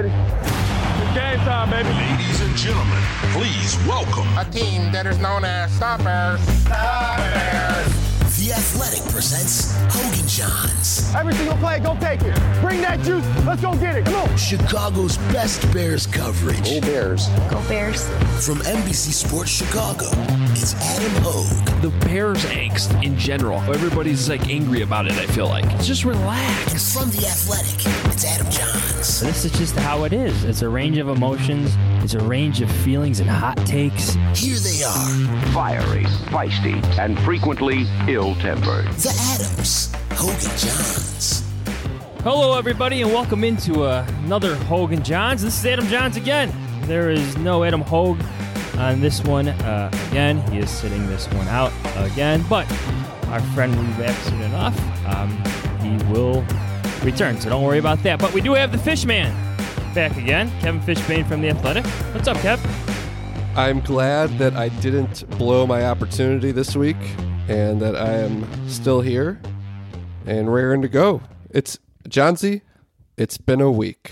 ready. It's game time, baby. Ladies and gentlemen, please welcome a team that is known as Stoppers. The Athletic presents Hogan Johns. Every single play, go take it. Bring that juice. Let's go get it. Come on. Chicago's best Bears coverage. Go Bears. Go Bears. From NBC Sports Chicago, it's Adam Hogue. The Bears angst in general. Everybody's like angry about it, I feel like. Just relax. And from The Athletic, it's Adam Johns. This is just how it is. It's a range of emotions. It's a range of feelings and hot takes. Here they are. Fiery, feisty, and frequently ill-tempered. The Adams. Hogan Johns. Hello, everybody, and welcome into another Hogan Johns. This is Adam Johns again. There is no Adam Hogue on this one again. He is sitting this one out again, but our friend will be back soon enough. He will return, so don't worry about that. But we do have the Fishman back again, Kevin Fishbane from The Athletic. What's up, Kev? I'm glad that I didn't blow my opportunity this week and that I am still here and raring to go. It's Johnsy. It's been a week.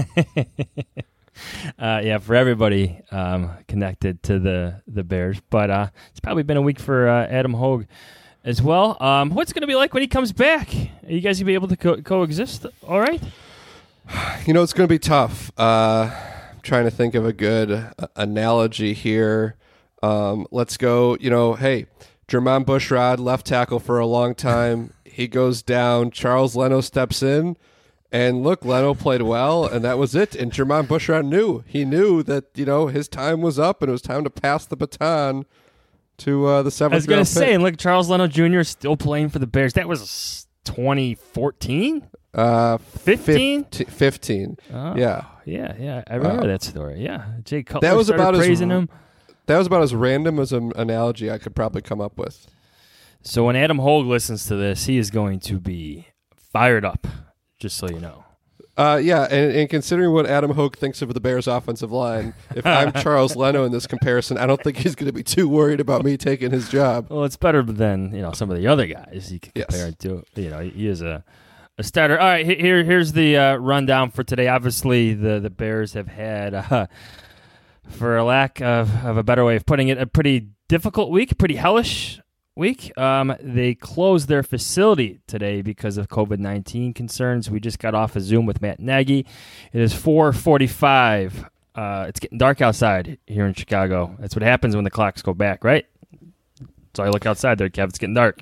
Yeah, for everybody connected to the Bears, but it's probably been a week for Adam Hogue as well. What's it going to be like when he comes back? Are you guys going to be able to coexist all right? You know, it's going to be tough. I'm trying to think of a good analogy here. Let's go, hey, Jermon Bushrod, left tackle for a long time. He goes down. Charles Leno steps in. And look, Leno played well, and that was it. And Jermon Bushrod knew. He knew that, his time was up, and it was time to pass the baton to the seventh. I was going to say, and look, Charles Leno Jr. is still playing for the Bears. That was 2014? 15? 15. Oh, yeah. Yeah. I remember that story. Yeah. Jay Cutler that was started praising him. That was about as random as an analogy I could probably come up with. So when Adam Hogue listens to this, he is going to be fired up, just so you know. Yeah, and considering what Adam Hogue thinks of the Bears' offensive line, if I'm Charles Leno in this comparison, I don't think he's going to be too worried about me taking his job. Well, it's better than some of the other guys you can compare it to. He is a starter. All right, here's the rundown for today. Obviously, the Bears have had, for a lack of a better way of putting it, a pretty difficult week, pretty hellish week. They closed their facility today because of COVID-19 concerns. We just got off a Zoom with Matt Nagy. It is 4:45. It's getting dark outside here in Chicago. That's what happens when the clocks go back, right? So I look outside there, Kev. It's getting dark.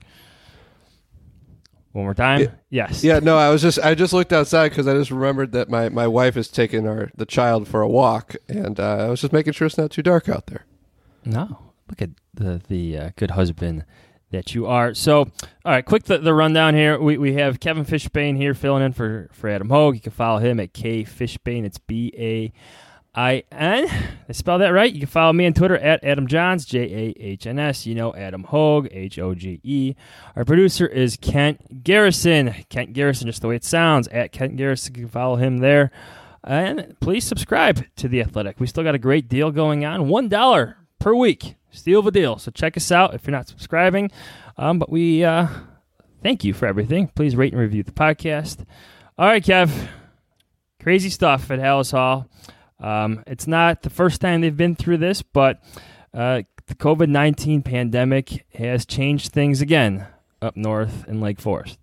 One more time? Yes. Yeah, no, I just looked outside because I just remembered that my wife is taking the child for a walk, and I was just making sure it's not too dark out there. No. Look at the good husband that you are. So, all right, quick the rundown here. We have Kevin Fishbane here filling in for Adam Hogue. You can follow him at K Fishbane. It's BAIN. I spell that right. You can follow me on Twitter at Adam Johns, JAHNS. Adam Hogue, HOGE. Our producer is Kent Garrison. Kent Garrison, just the way it sounds, at Kent Garrison. You can follow him there. And please subscribe to The Athletic. We still got a great deal going on. $1 per week. Steal of a deal. So check us out if you're not subscribing. But we thank you for everything. Please rate and review the podcast. All right, Kev. Crazy stuff at Halas Hall. It's not the first time they've been through this, but the COVID-19 pandemic has changed things again up north in Lake Forest.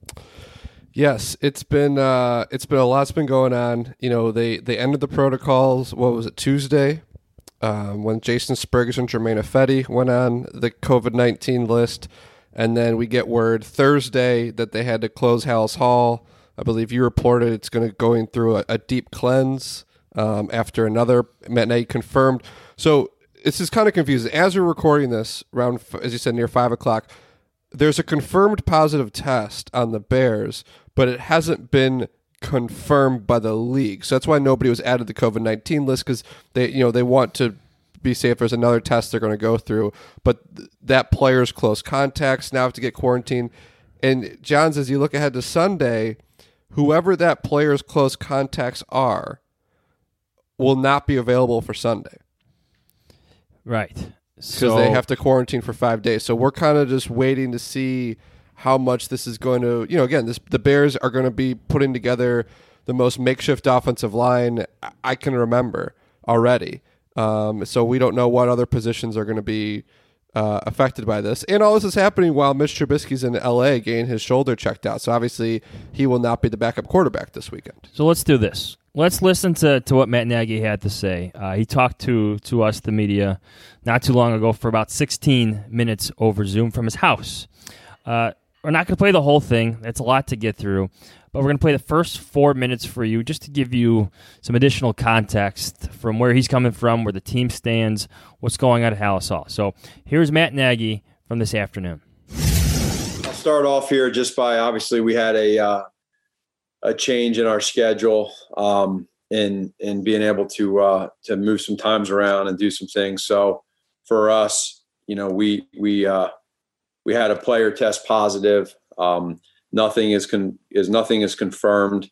Yes, it's been a lot's been going on. They ended the protocols. What was it, Tuesday? When Jason Spriggs and Germain Ifedi went on the COVID-19 list, and then we get word Thursday that they had to close Halas Hall. I believe you reported it's going through a deep cleanse after another. Matt Nagy confirmed. So this is kind of confusing. As we're recording this, around, as you said, near 5 o'clock, there's a confirmed positive test on the Bears, but it hasn't been confirmed by the league. So that's why nobody was added to the COVID-19 list, because they want to be safe. There's another test they're going to go through, but that player's close contacts now have to get quarantined. And Johns, as you look ahead to Sunday, whoever that player's close contacts are will not be available for Sunday. Right. Because they have to quarantine for 5 days. So we're kind of just waiting to see how much this is going to, again, the Bears are going to be putting together the most makeshift offensive line I can remember already. So we don't know what other positions are going to be affected by this. And all this is happening while Mitch Trubisky's in L.A. getting his shoulder checked out. So obviously he will not be the backup quarterback this weekend. So let's do this. Let's listen to what Matt Nagy had to say. He talked to us, the media, not too long ago for about 16 minutes over Zoom from his house. We're not going to play the whole thing. That's a lot to get through. But we're going to play the first 4 minutes for you just to give you some additional context from where he's coming from, where the team stands, what's going on at Halas Hall. So here's Matt Nagy from this afternoon. I'll start off here just by, obviously, we had a change in our schedule in being able to move some times around and do some things. So for us, we had a player test positive. Nothing is confirmed.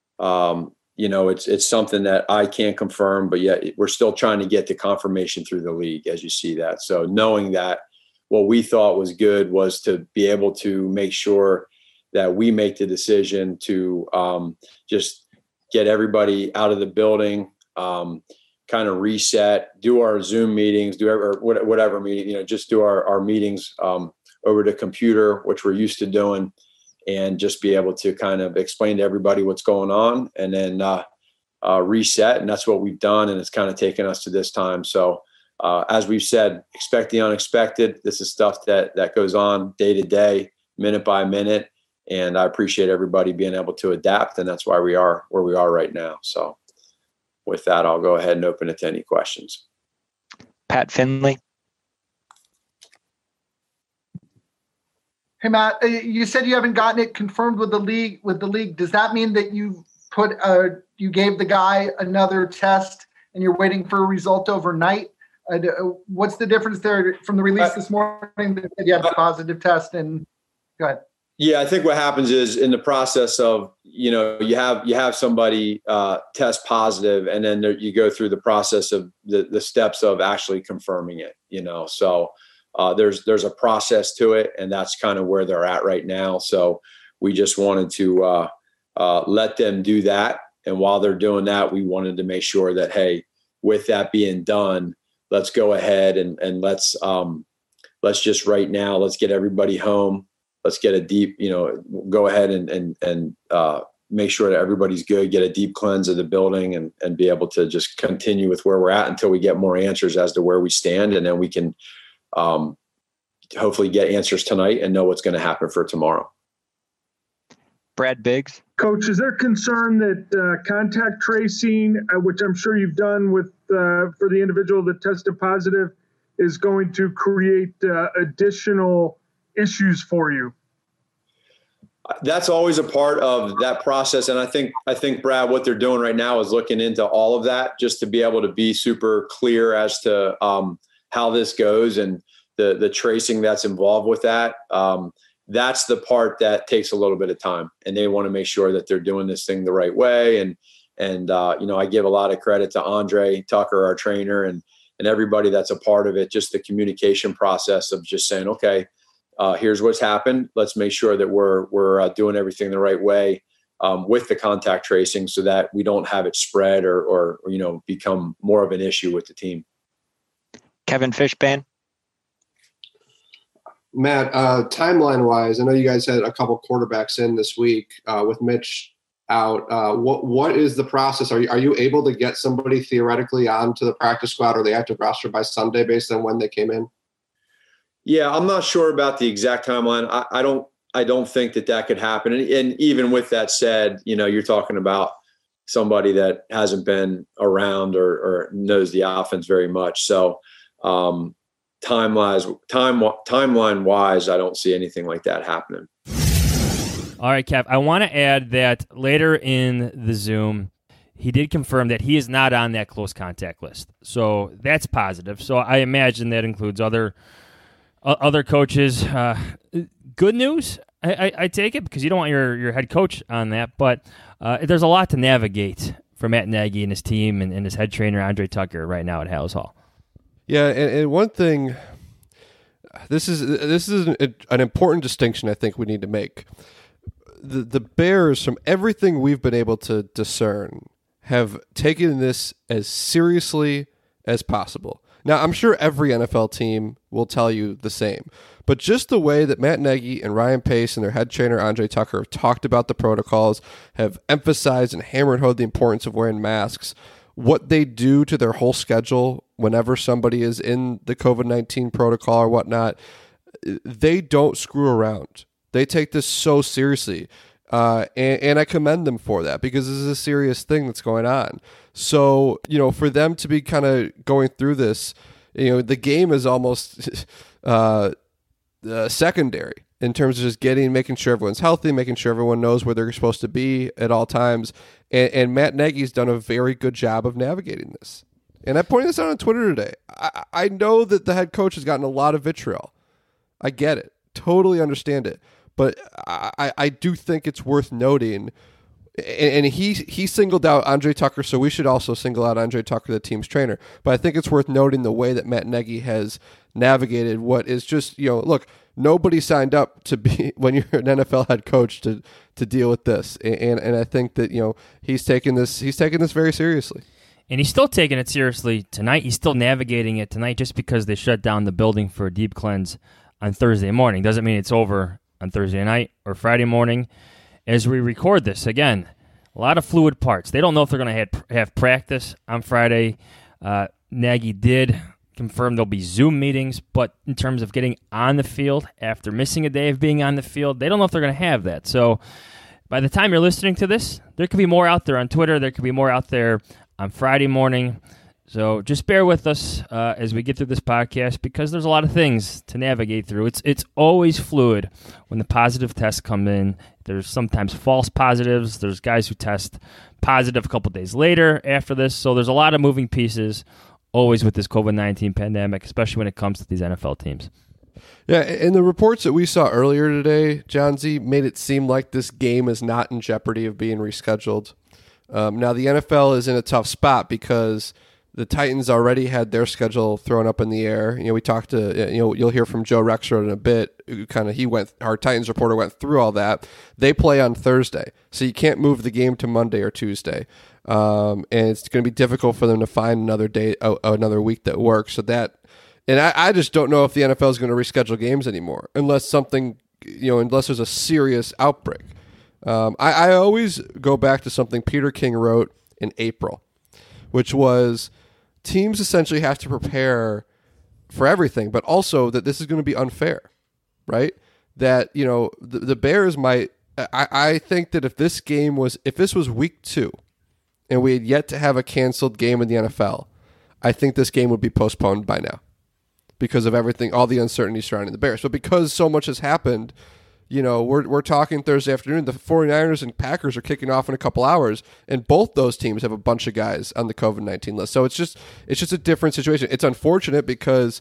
It's something that I can't confirm, but yet we're still trying to get the confirmation through the league, as you see that. So knowing that, what we thought was good was to be able to make sure that we make the decision to just get everybody out of the building, kind of reset, do our Zoom meetings, whatever meeting, just do our meetings over the computer, which we're used to doing, and just be able to kind of explain to everybody what's going on and then reset. And that's what we've done. And it's kind of taken us to this time. So as we've said, expect the unexpected. This is stuff that goes on day to day, minute by minute. And I appreciate everybody being able to adapt. And that's why we are where we are right now. So with that, I'll go ahead and open it to any questions. Pat Finley. Hey, Matt, you said you haven't gotten it confirmed with the league. Does that mean that you gave the guy another test and you're waiting for a result overnight? What's the difference there from the release this morning that said you had a positive test? And go ahead. Yeah, I think what happens is in the process of, you have somebody test positive, and then you go through the process of the steps of actually confirming it, So there's a process to it, and that's kind of where they're at right now. So we just wanted to let them do that. And while they're doing that, we wanted to make sure that, hey, with that being done, let's go ahead and let's just right now, let's get everybody home. Let's get a deep, go ahead and make sure that everybody's good, get a deep cleanse of the building and be able to just continue with where we're at until we get more answers as to where we stand. And then we can hopefully get answers tonight and know what's going to happen for tomorrow. Brad Biggs. Coach, is there concern that contact tracing, which I'm sure you've done with for the individual that tested positive, is going to create additional issues for you? That's always a part of that process. And I think Brad, what they're doing right now is looking into all of that just to be able to be super clear as to how this goes and the tracing that's involved with that. That's the part that takes a little bit of time, and they want to make sure that they're doing this thing the right way. And I give a lot of credit to Andre Tucker, our trainer, and everybody that's a part of it, just the communication process of just saying, okay, here's what's happened. Let's make sure that we're doing everything the right way with the contact tracing so that we don't have it spread or become more of an issue with the team. Kevin Fishbain. Matt, timeline-wise, I know you guys had a couple quarterbacks in this week with Mitch out. What is the process? Are you able to get somebody theoretically onto the practice squad or the active roster by Sunday based on when they came in? Yeah, I'm not sure about the exact timeline. I don't think that could happen. And even with that said, you're talking about somebody that hasn't been around or knows the offense very much. So timeline wise, I don't see anything like that happening. All right, Kev, I want to add that later in the Zoom, he did confirm that he is not on that close contact list. So that's positive. So I imagine that includes other coaches. Good news, I take it, because you don't want your head coach on that. But there's a lot to navigate for Matt Nagy and his team and his head trainer, Andre Tucker, right now at Halas Hall. Yeah, and one thing, this is an important distinction I think we need to make. the Bears, from everything we've been able to discern, have taken this as seriously as possible. Now, I'm sure every NFL team will tell you the same, but just the way that Matt Nagy and Ryan Pace and their head trainer, Andre Tucker, have talked about the protocols, have emphasized and hammered home the importance of wearing masks, what they do to their whole schedule whenever somebody is in the COVID-19 protocol or whatnot, they don't screw around. They take this so seriously. And I commend them for that, because this is a serious thing that's going on. So, for them to be kind of going through this, the game is almost secondary in terms of just making sure everyone's healthy, making sure everyone knows where they're supposed to be at all times. And Matt Nagy's done a very good job of navigating this. And I pointed this out on Twitter today. I know that the head coach has gotten a lot of vitriol. I get it. Totally understand it. But I do think it's worth noting, and he singled out Andre Tucker, so we should also single out Andre Tucker, the team's trainer. But I think it's worth noting the way that Matt Nagy has navigated what is just, look, nobody signed up to be, when you're an NFL head coach, to deal with this. And I think that, he's taken this very seriously. And he's still taking it seriously tonight. He's still navigating it tonight. Just because they shut down the building for a deep cleanse on Thursday morning doesn't mean it's over on Thursday night or Friday morning. As we record this, again, a lot of fluid parts. They don't know if they're going to have practice on Friday. Nagy did confirm there'll be Zoom meetings, but in terms of getting on the field after missing a day of being on the field, they don't know if they're going to have that. So by the time you're listening to this, there could be more out there on Twitter. There could be more out there on Friday morning. So just bear with us as we get through this podcast, because there's a lot of things to navigate through. It's always fluid when the positive tests come in. There's sometimes false positives. There's guys who test positive a couple days later after this. So there's a lot of moving pieces always with this COVID-19 pandemic, especially when it comes to these NFL teams. Yeah, and the reports that we saw earlier today, John Z, made it seem like this game is not in jeopardy of being rescheduled. Now, the NFL is in a tough spot because the Titans already had their schedule thrown up in the air. We talked to, you'll hear from Joe Rexrode in a bit. Our Titans reporter went through all that. They play on Thursday, so you can't move the game to Monday or Tuesday. And it's going to be difficult for them to find another day, another week that works. And I just don't know if the NFL is going to reschedule games anymore unless unless there's a serious outbreak. I always go back to something Peter King wrote in April, which was teams essentially have to prepare for everything, but also that this is going to be unfair, right? That, the Bears might, I think that if this was week 2 and we had yet to have a canceled game in the NFL, I think this game would be postponed by now because of everything, all the uncertainty surrounding the Bears. But because so much has happened, we're talking Thursday afternoon. The 49ers and Packers are kicking off in a couple hours, and both those teams have a bunch of guys on the COVID-19 list. So it's just a different situation. It's unfortunate because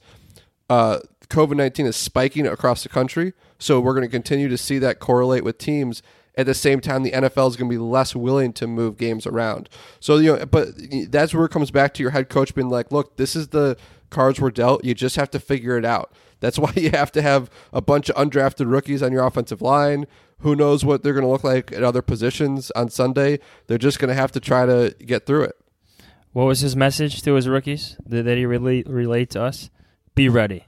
COVID-19 is spiking across the country, so we're going to continue to see that correlate with teams. At the same time, the NFL is going to be less willing to move games around. So, but that's where it comes back to your head coach being like, look, this is the cards we're dealt. You just have to figure it out. That's why you have to have a bunch of undrafted rookies on your offensive line. Who knows what they're going to look like at other positions on Sunday? They're just going to have to try to get through it. What was his message to his rookies that he relate to us? Be ready.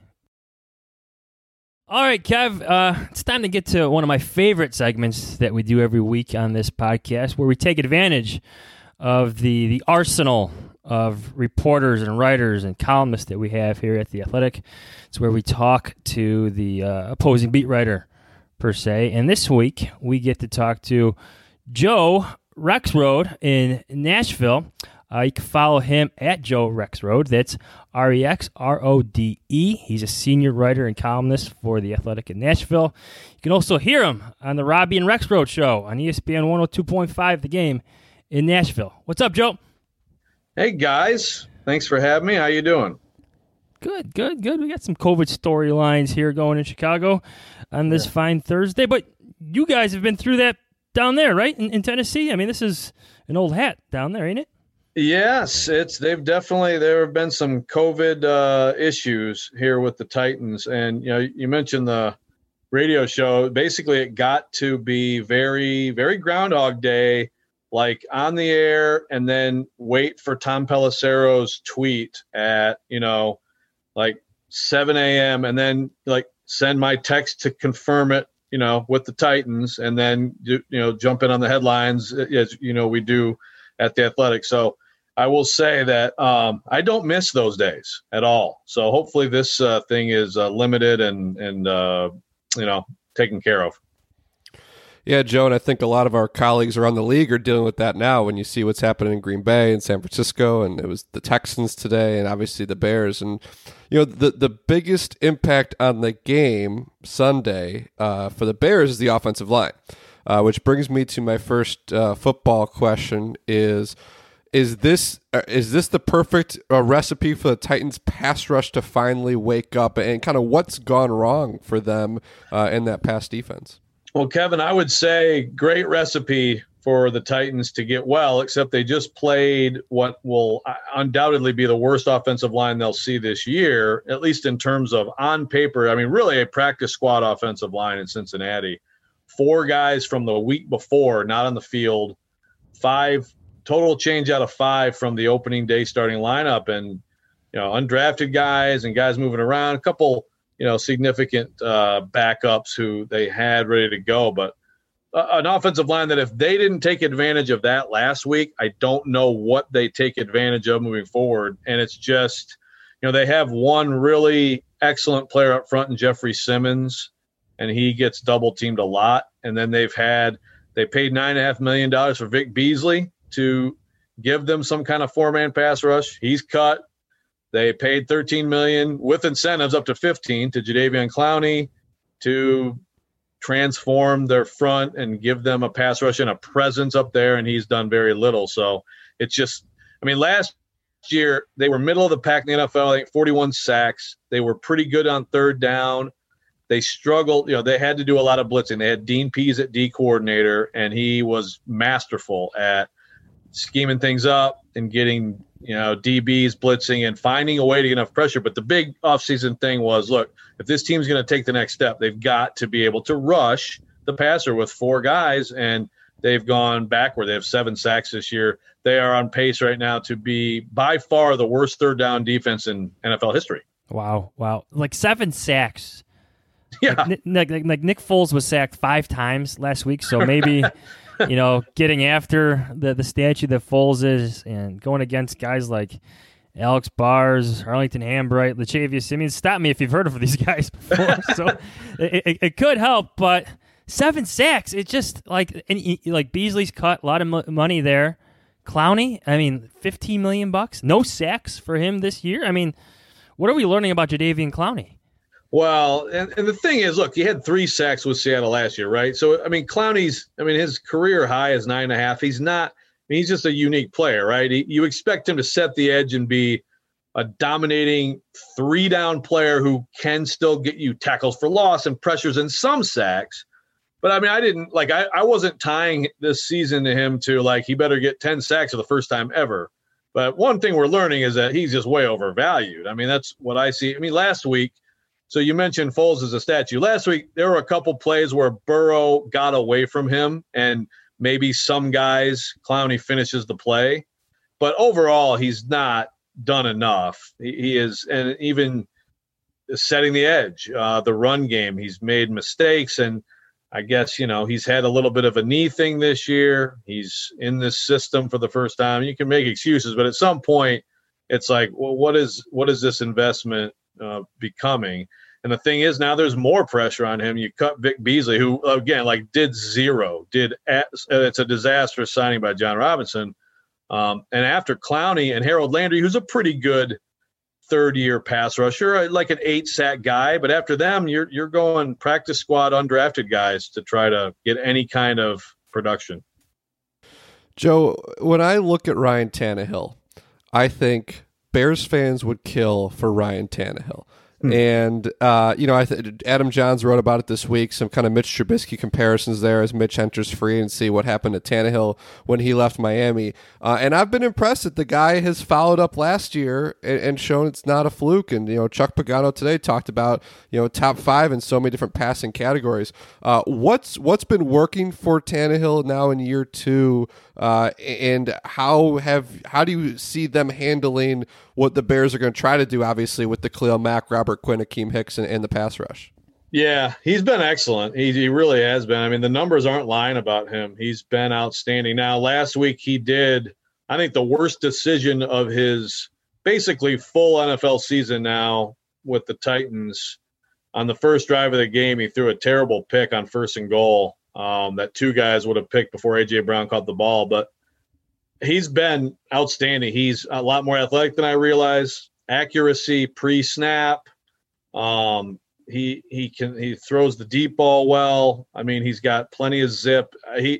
All right, Kev, it's time to get to one of my favorite segments that we do every week on this podcast, where we take advantage of the arsenal of reporters and writers and columnists that we have here at The Athletic. It's where we talk to the opposing beat writer, per se. And this week, we get to talk to Joe Rexrode in Nashville. You can follow him at Joe Rexrode. That's Rexrode. He's a senior writer and columnist for The Athletic in Nashville. You can also hear him on the Robbie and Rexrode show on ESPN 102.5 The Game in Nashville. What's up, Joe? Hey, guys. Thanks for having me. How you doing? Good. We got some COVID storylines here going in Chicago on this fine Thursday. But you guys have been through that down there, right, in Tennessee? I mean, this is an old hat down there, ain't it? Yes, there have been some COVID issues here with the Titans. And, you mentioned the radio show, basically it got to be very, very Groundhog Day, like on the air, and then wait for Tom Pelissero's tweet at, like 7 a.m. and then like send my text to confirm it, with the Titans, and then, jump in on the headlines as, we do at The Athletic. So I will say that I don't miss those days at all. So hopefully this thing is limited and taken care of. Yeah, Joe, and I think a lot of our colleagues around the league are dealing with that now when you see what's happening in Green Bay and San Francisco, and it was the Texans today and obviously the Bears. And, the biggest impact on the game Sunday for the Bears is the offensive line, which brings me to my first football question is this the perfect recipe for the Titans pass rush to finally wake up, and kind of what's gone wrong for them in that pass defense? Well, Kevin, I would say great recipe for the Titans to get well, except they just played what will undoubtedly be the worst offensive line they'll see this year, at least in terms of on paper. I mean, really a practice squad offensive line in Cincinnati. 4 guys from the week before not on the field, 5 total change out of 5 from the opening day starting lineup, and undrafted guys and guys moving around, a couple significant backups who they had ready to go. But an offensive line that if they didn't take advantage of that last week, I don't know what they take advantage of moving forward. And it's just, they have one really excellent player up front in Jeffrey Simmons, and he gets double teamed a lot. And then they paid $9.5 million for Vic Beasley to give them some kind of 4-man pass rush. He's cut. They paid $13 million with incentives up to $15 million to Jadeveon Clowney to transform their front and give them a pass rush and a presence up there, and he's done very little. So it's just, last year they were middle of the pack in the NFL. I think 41 sacks. They were pretty good on third down. They struggled. They had to do a lot of blitzing. They had Dean Pease at D coordinator, and he was masterful at scheming things up and getting DBs blitzing and finding a way to get enough pressure. But the big offseason thing was, look, if this team's going to take the next step, they've got to be able to rush the passer with 4 guys, and they've gone backward. They have 7 sacks this year. They are on pace right now to be by far the worst third down defense in NFL history. Wow. Like 7 sacks. Yeah. Like Nick Foles was sacked 5 times last week, so maybe getting after the statue that Foles is and going against guys like Alex Bars, Arlington Hambright, Latavius Simmons. Stop me if you've heard of these guys before. So it could help, but 7 sacks, it's just like Beasley's cut a lot of money there. Clowney, $15 million, no sacks for him this year. What are we learning about Jadeveon Clowney? Well, and the thing is, look, he had 3 sacks with Seattle last year, right? So, Clowney's, his career high is 9.5. He's not, he's just a unique player, right? You expect him to set the edge and be a dominating 3-down player who can still get you tackles for loss and pressures and some sacks. But, I wasn't tying this season to him to, he better get 10 sacks for the first time ever. But one thing we're learning is that he's just way overvalued. That's what I see. Last week, so you mentioned Foles as a statue. Last week, there were a couple plays where Burrow got away from him, and maybe some guys, Clowney finishes the play. But overall, he's not done enough. He is, and even setting the edge, the run game, he's made mistakes. And I guess, he's had a little bit of a knee thing this year. He's in this system for the first time. You can make excuses, but at some point, it's like, well, what is this investment becoming? And the thing is, now there's more pressure on him. You cut Vic Beasley, who again did zero. It's a disastrous signing by John Robinson. And after Clowney and Harold Landry, who's a pretty good third-year pass rusher, like an 8-sack guy, but after them, you're going practice squad undrafted guys to try to get any kind of production. Joe, when I look at Ryan Tannehill, I think Bears fans would kill for Ryan Tannehill. And, Adam Johns wrote about it this week, some kind of Mitch Trubisky comparisons there as Mitch enters free and see what happened to Tannehill when he left Miami. And I've been impressed that the guy has followed up last year and shown it's not a fluke. And, Chuck Pagano today talked about, top 5 in so many different passing categories. What's been working for Tannehill now in year 2? And how do you see them handling what the Bears are going to try to do, obviously, with the Khalil Mack, Robert Quinn, Akeem Hicks, and the pass rush? Yeah, he's been excellent. He really has been. I mean, the numbers aren't lying about him. He's been outstanding. Now, last week he did, I think, the worst decision of his basically full NFL season now with the Titans. On the first drive of the game, he threw a terrible pick on 1st and goal that 2 guys would have picked before A.J. Brown caught the ball. But he's been outstanding. He's a lot more athletic than I realized. Accuracy pre-snap. He throws the deep ball well. I mean, he's got plenty of zip. I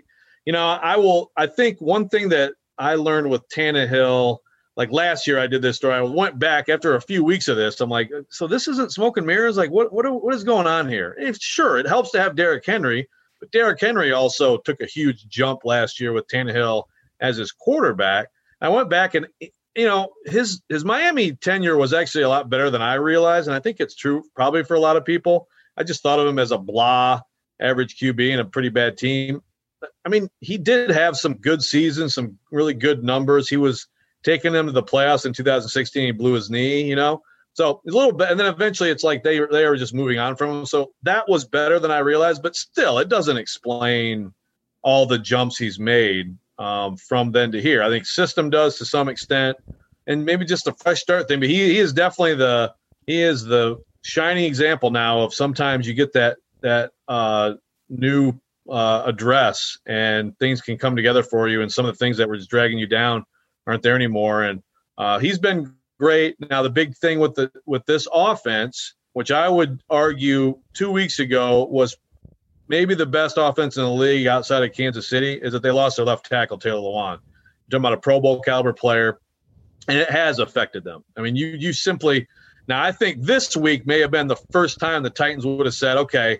think one thing that I learned with Tannehill, like last year I did this story. I went back after a few weeks of this. I'm like, so this isn't smoke and mirrors? Like, what is going on here? Sure, it helps to have Derrick Henry, but Derrick Henry also took a huge jump last year with Tannehill as his quarterback. I went back and, his Miami tenure was actually a lot better than I realized. And I think it's true probably for a lot of people. I just thought of him as a blah average QB and a pretty bad team. I mean, he did have some good seasons, some really good numbers. He was taking them to the playoffs in 2016. He blew his knee, So a little bit, and then eventually it's like they were just moving on from him. So that was better than I realized, but still, it doesn't explain all the jumps he's made from then to here. I think system does to some extent, and maybe just a fresh start thing. But he is definitely the shining example now of sometimes you get that new address and things can come together for you, and some of the things that were just dragging you down aren't there anymore. And he's been great. Now the big thing with this offense, which I would argue 2 weeks ago was maybe the best offense in the league outside of Kansas City, is that they lost their left tackle, Taylor Lewan. You're talking about a Pro Bowl caliber player, and it has affected them. I mean, you simply – now I think this week may have been the first time the Titans would have said, okay,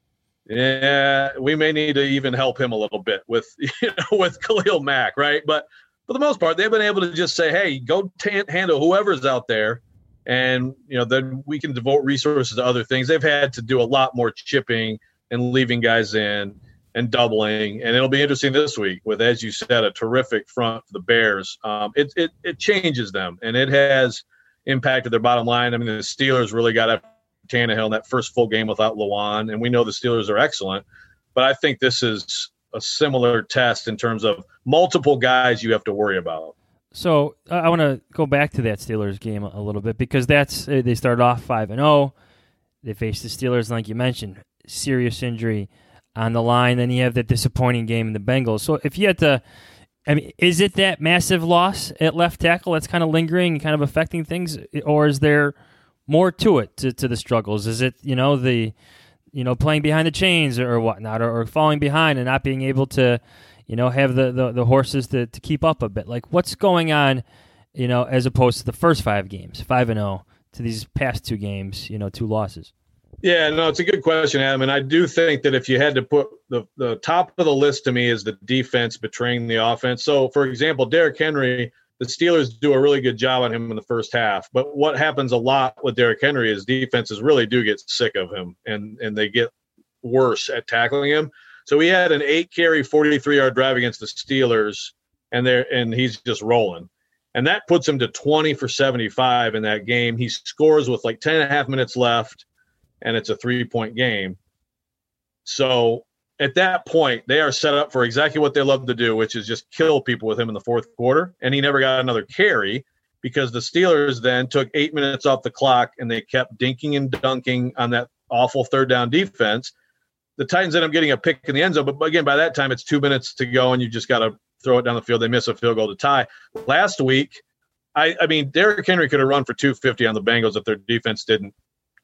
yeah, we may need to even help him a little bit with Khalil Mack, right? But for the most part, they've been able to just say, hey, go handle whoever's out there, and then we can devote resources to other things. They've had to do a lot more chipping and leaving guys in and doubling. And it'll be interesting this week with, as you said, a terrific front for the Bears. It changes them, and it has impacted their bottom line. I mean, the Steelers really got after Tannehill in that first full game without Lewan, and we know the Steelers are excellent. But I think this is a similar test in terms of multiple guys you have to worry about. So I want to go back to that Steelers game a little bit, because they started off 5-0. They faced the Steelers, like you mentioned, serious injury on the line. Then you have that disappointing game in the Bengals. So if you had to, is it that massive loss at left tackle that's kind of lingering and kind of affecting things, or is there more to it, to the struggles? Is it, playing behind the chains or whatnot, or falling behind and not being able to, have the horses to keep up a bit? Like, what's going on, as opposed to the first 5 games, 5-0, to these past 2 games, 2 losses? Yeah, no, it's a good question, Adam. And I do think that if you had to put the top of the list to me is the defense betraying the offense. So, for example, Derrick Henry, the Steelers do a really good job on him in the first half. But what happens a lot with Derrick Henry is defenses really do get sick of him, and they get worse at tackling him. So he had an 8-carry, 43-yard drive against the Steelers, and he's just rolling. And that puts him to 20 for 75 in that game. He scores with like 10 and a half minutes left, and it's a 3-point game. So at that point, they are set up for exactly what they love to do, which is just kill people with him in the fourth quarter. And he never got another carry because the Steelers then took 8 minutes off the clock, and they kept dinking and dunking on that awful third down defense. The Titans end up getting a pick in the end zone, but again, by that time, it's 2 minutes to go, and you just got to throw it down the field. They miss a field goal to tie. Last week, I mean, Derrick Henry could have run for 250 on the Bengals if their defense didn't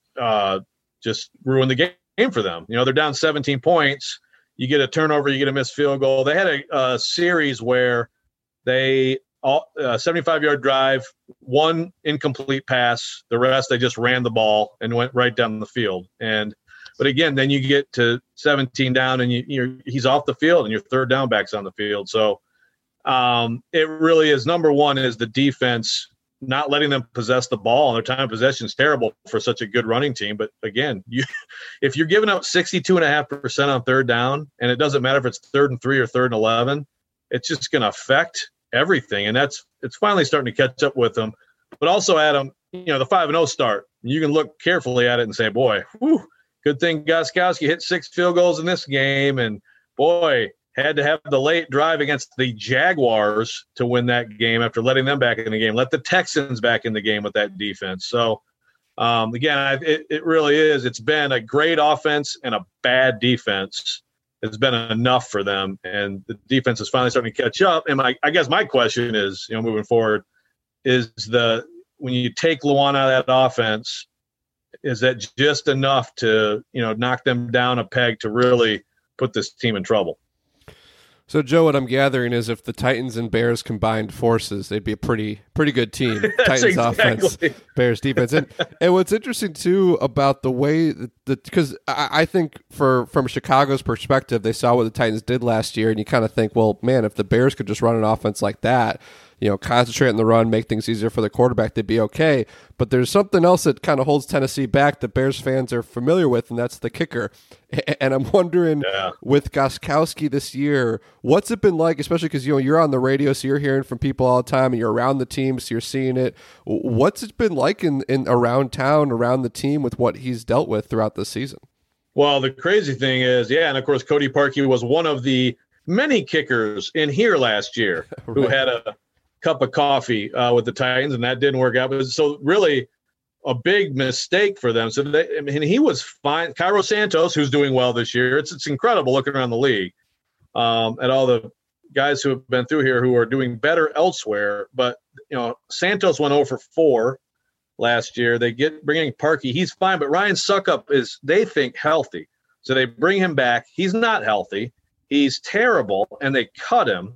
just ruin the game for them. They're down 17 points. You get a turnover, you get a missed field goal. They had a series where they 75-yard drive, one incomplete pass. The rest, they just ran the ball and went right down the field. But again, then you get to 17 down and he's off the field and your third down back's on the field. So it really is, number one is the defense not letting them possess the ball. And their time of possession is terrible for such a good running team. But again, if you're giving up 62.5% on third down, and it doesn't matter if it's 3rd and 3 or 3rd and 11, it's just going to affect everything. And it's finally starting to catch up with them. But also, Adam, the 5-0 start, you can look carefully at it and say, boy, whew, good thing Gostkowski hit 6 field goals in this game. And boy, had to have the late drive against the Jaguars to win that game after letting them back in the game. Let the Texans back in the game with that defense. So, again, it really is. It's been a great offense and a bad defense. It's been enough for them, and the defense is finally starting to catch up. And I guess my question is, moving forward, is when you take Lewan out of that offense, is that just enough to, knock them down a peg to really put this team in trouble? So, Joe, what I'm gathering is if the Titans and Bears combined forces, they'd be a pretty good team. Titans offense, Bears defense. And what's interesting, too, about the way because I think from Chicago's perspective, they saw what the Titans did last year, and you kind of think, well, man, if the Bears could just run an offense like that, concentrate on the run, make things easier for the quarterback, they'd be okay. But there's something else that kind of holds Tennessee back that Bears fans are familiar with, and that's the kicker. And I'm wondering, with Gostkowski this year, what's it been like, especially because, you're on the radio, so you're hearing from people all the time, and you're around the team, so you're seeing it. What's it been like in around town, around the team, with what he's dealt with throughout the season? Well, the crazy thing is, and of course, Cody Parkey was one of the many kickers in here last year who had a cup of coffee with the Titans, and that didn't work out. But so really a big mistake for them. So he was fine. Cairo Santos, who's doing well this year. It's incredible looking around the league at all the guys who have been through here who are doing better elsewhere. But Santos went 0 for 4 last year. They bring in Parkey. He's fine, but Ryan Suckup is, they think, healthy. So they bring him back. He's not healthy. He's terrible, and they cut him.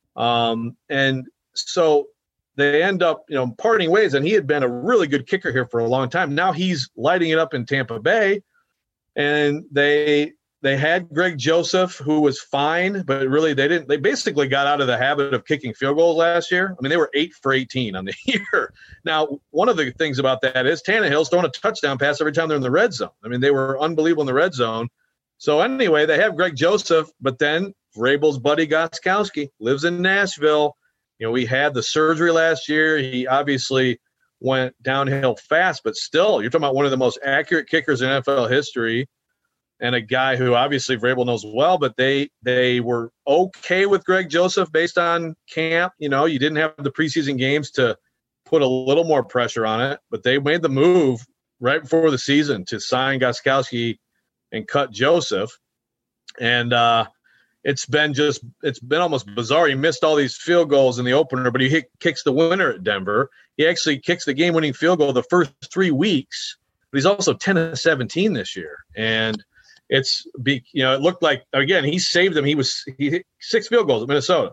And so they end up, parting ways, and he had been a really good kicker here for a long time. Now he's lighting it up in Tampa Bay, and they had Greg Joseph, who was fine, but really they basically got out of the habit of kicking field goals last year. I mean, they were 8 for 18 on the year. Now, one of the things about that is Tannehill's throwing a touchdown pass every time they're in the red zone. I mean, they were unbelievable in the red zone. So anyway, they have Greg Joseph, but then Vrabel's buddy Gostkowski lives in Nashville. We had the surgery last year. He obviously went downhill fast, but still, you're talking about one of the most accurate kickers in NFL history, and a guy who obviously Vrabel knows well. But they were okay with Greg Joseph based on camp. You didn't have the preseason games to put a little more pressure on it, but they made the move right before the season to sign Gostkowski and cut Joseph, and it's been almost bizarre. He missed all these field goals in the opener, but he kicks the winner at Denver. He actually kicks the game-winning field goal the first 3 weeks, but he's also 10-17 this year. And it looked like, again, he saved them. He hit 6 field goals at Minnesota.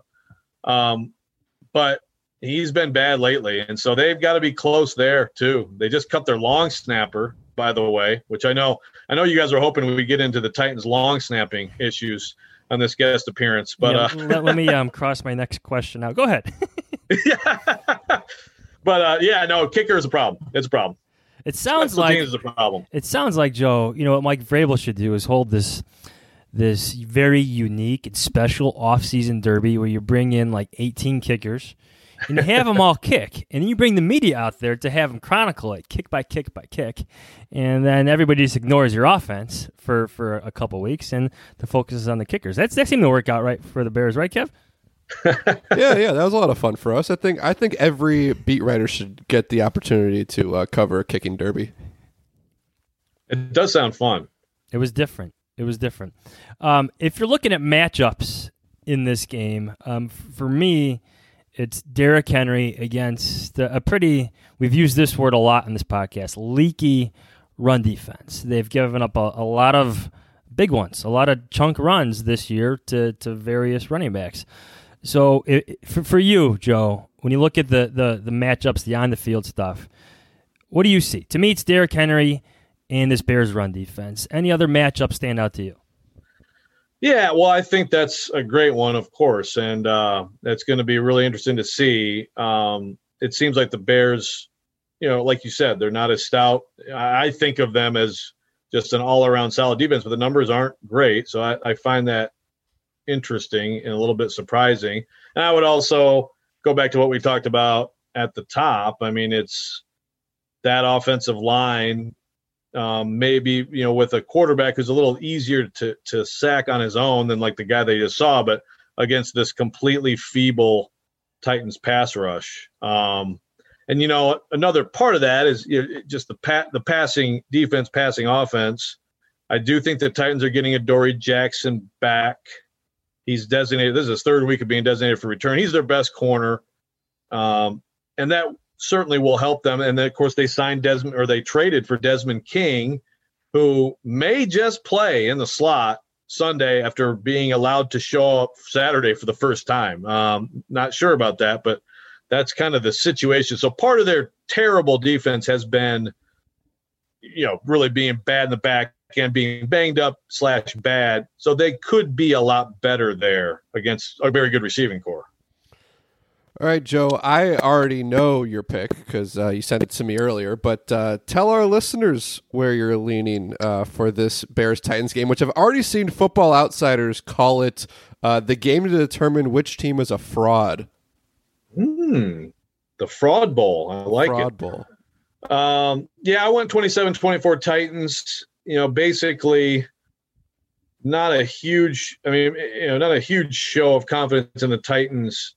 But he's been bad lately. And so they've got to be close there too. They just cut their long snapper, by the way, which I know you guys are hoping we get into the Titans long snapping issues on this guest appearance, but let me cross my next question out. Go ahead. But kicker is a problem. It's a problem. It sounds like is a problem. It sounds like, Joe, what Mike Vrabel should do is hold this very unique and special off-season derby where you bring in like 18 kickers and you have them all kick, and then you bring the media out there to have them chronicle it kick by kick by kick, and then everybody just ignores your offense for a couple weeks and the focus is on the kickers. That seemed to work out right for the Bears, right, Kev? Yeah, that was a lot of fun for us. I think every beat writer should get the opportunity to cover a kicking derby. It does sound fun. It was different. If you're looking at matchups in this game, for me, it's Derrick Henry against a pretty, we've used this word a lot in this podcast, leaky run defense. They've given up a lot of big ones, a lot of chunk runs this year to various running backs. So for you, Joe, when you look at the matchups, the on the field stuff, what do you see? To me, it's Derrick Henry and this Bears run defense. Any other matchups stand out to you? Yeah, well, I think that's a great one, of course, and that's going to be really interesting to see. It seems like the Bears, like you said, they're not as stout. I think of them as just an all-around solid defense, but the numbers aren't great, so I find that interesting and a little bit surprising. And I would also go back to what we talked about at the top. I mean, it's that offensive line, maybe, with a quarterback who's a little easier to sack on his own than like the guy they just saw, but against this completely feeble Titans pass rush. And, another part of that is just the passing defense, passing offense. I do think the Titans are getting Adoree Jackson back. He's designated. This is his third week of being designated for return. He's their best corner. And that certainly will help them. And then, of course, they traded for Desmond King, who may just play in the slot Sunday after being allowed to show up Saturday for the first time. Not sure about that, but that's kind of the situation. So part of their terrible defense has been, really being bad in the back and being banged up / bad. So they could be a lot better there against a very good receiving core. All right, Joe, I already know your pick because you sent it to me earlier, but tell our listeners where you're leaning for this Bears-Titans game, which I've already seen Football Outsiders call it the game to determine which team is a fraud. The Fraud Bowl. I like Fraud it. Bowl. I went 27-24 Titans. Basically not a huge show of confidence in the Titans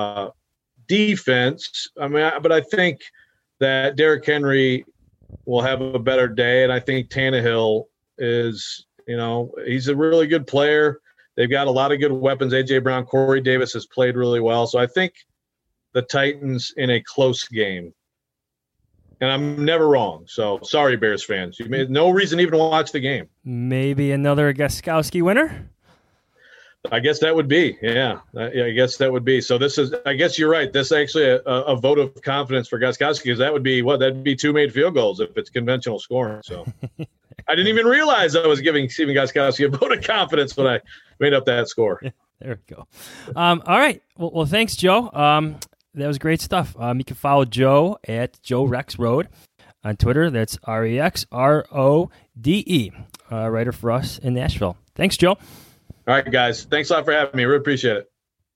defense. But I think that Derrick Henry will have a better day, and I think Tannehill is, he's a really good player. They've got a lot of good weapons. A.J. Brown, Corey Davis has played really well. So I think the Titans in a close game. And I'm never wrong. So sorry, Bears fans. You made no reason even to watch the game. Maybe another Gostkowski winner? I guess that would be. Yeah, I guess that would be. So I guess you're right. This is actually a vote of confidence for Gostkowski, because that would be that'd be 2 made field goals if it's conventional scoring. So I didn't even realize I was giving Stephen Gostkowski a vote of confidence when I made up that score. There we go. All right. Well, thanks, Joe. That was great stuff. You can follow Joe at Joe Rex Road on Twitter. That's REXRODE, writer for us in Nashville. Thanks, Joe. All right, guys. Thanks a lot for having me. Really appreciate it.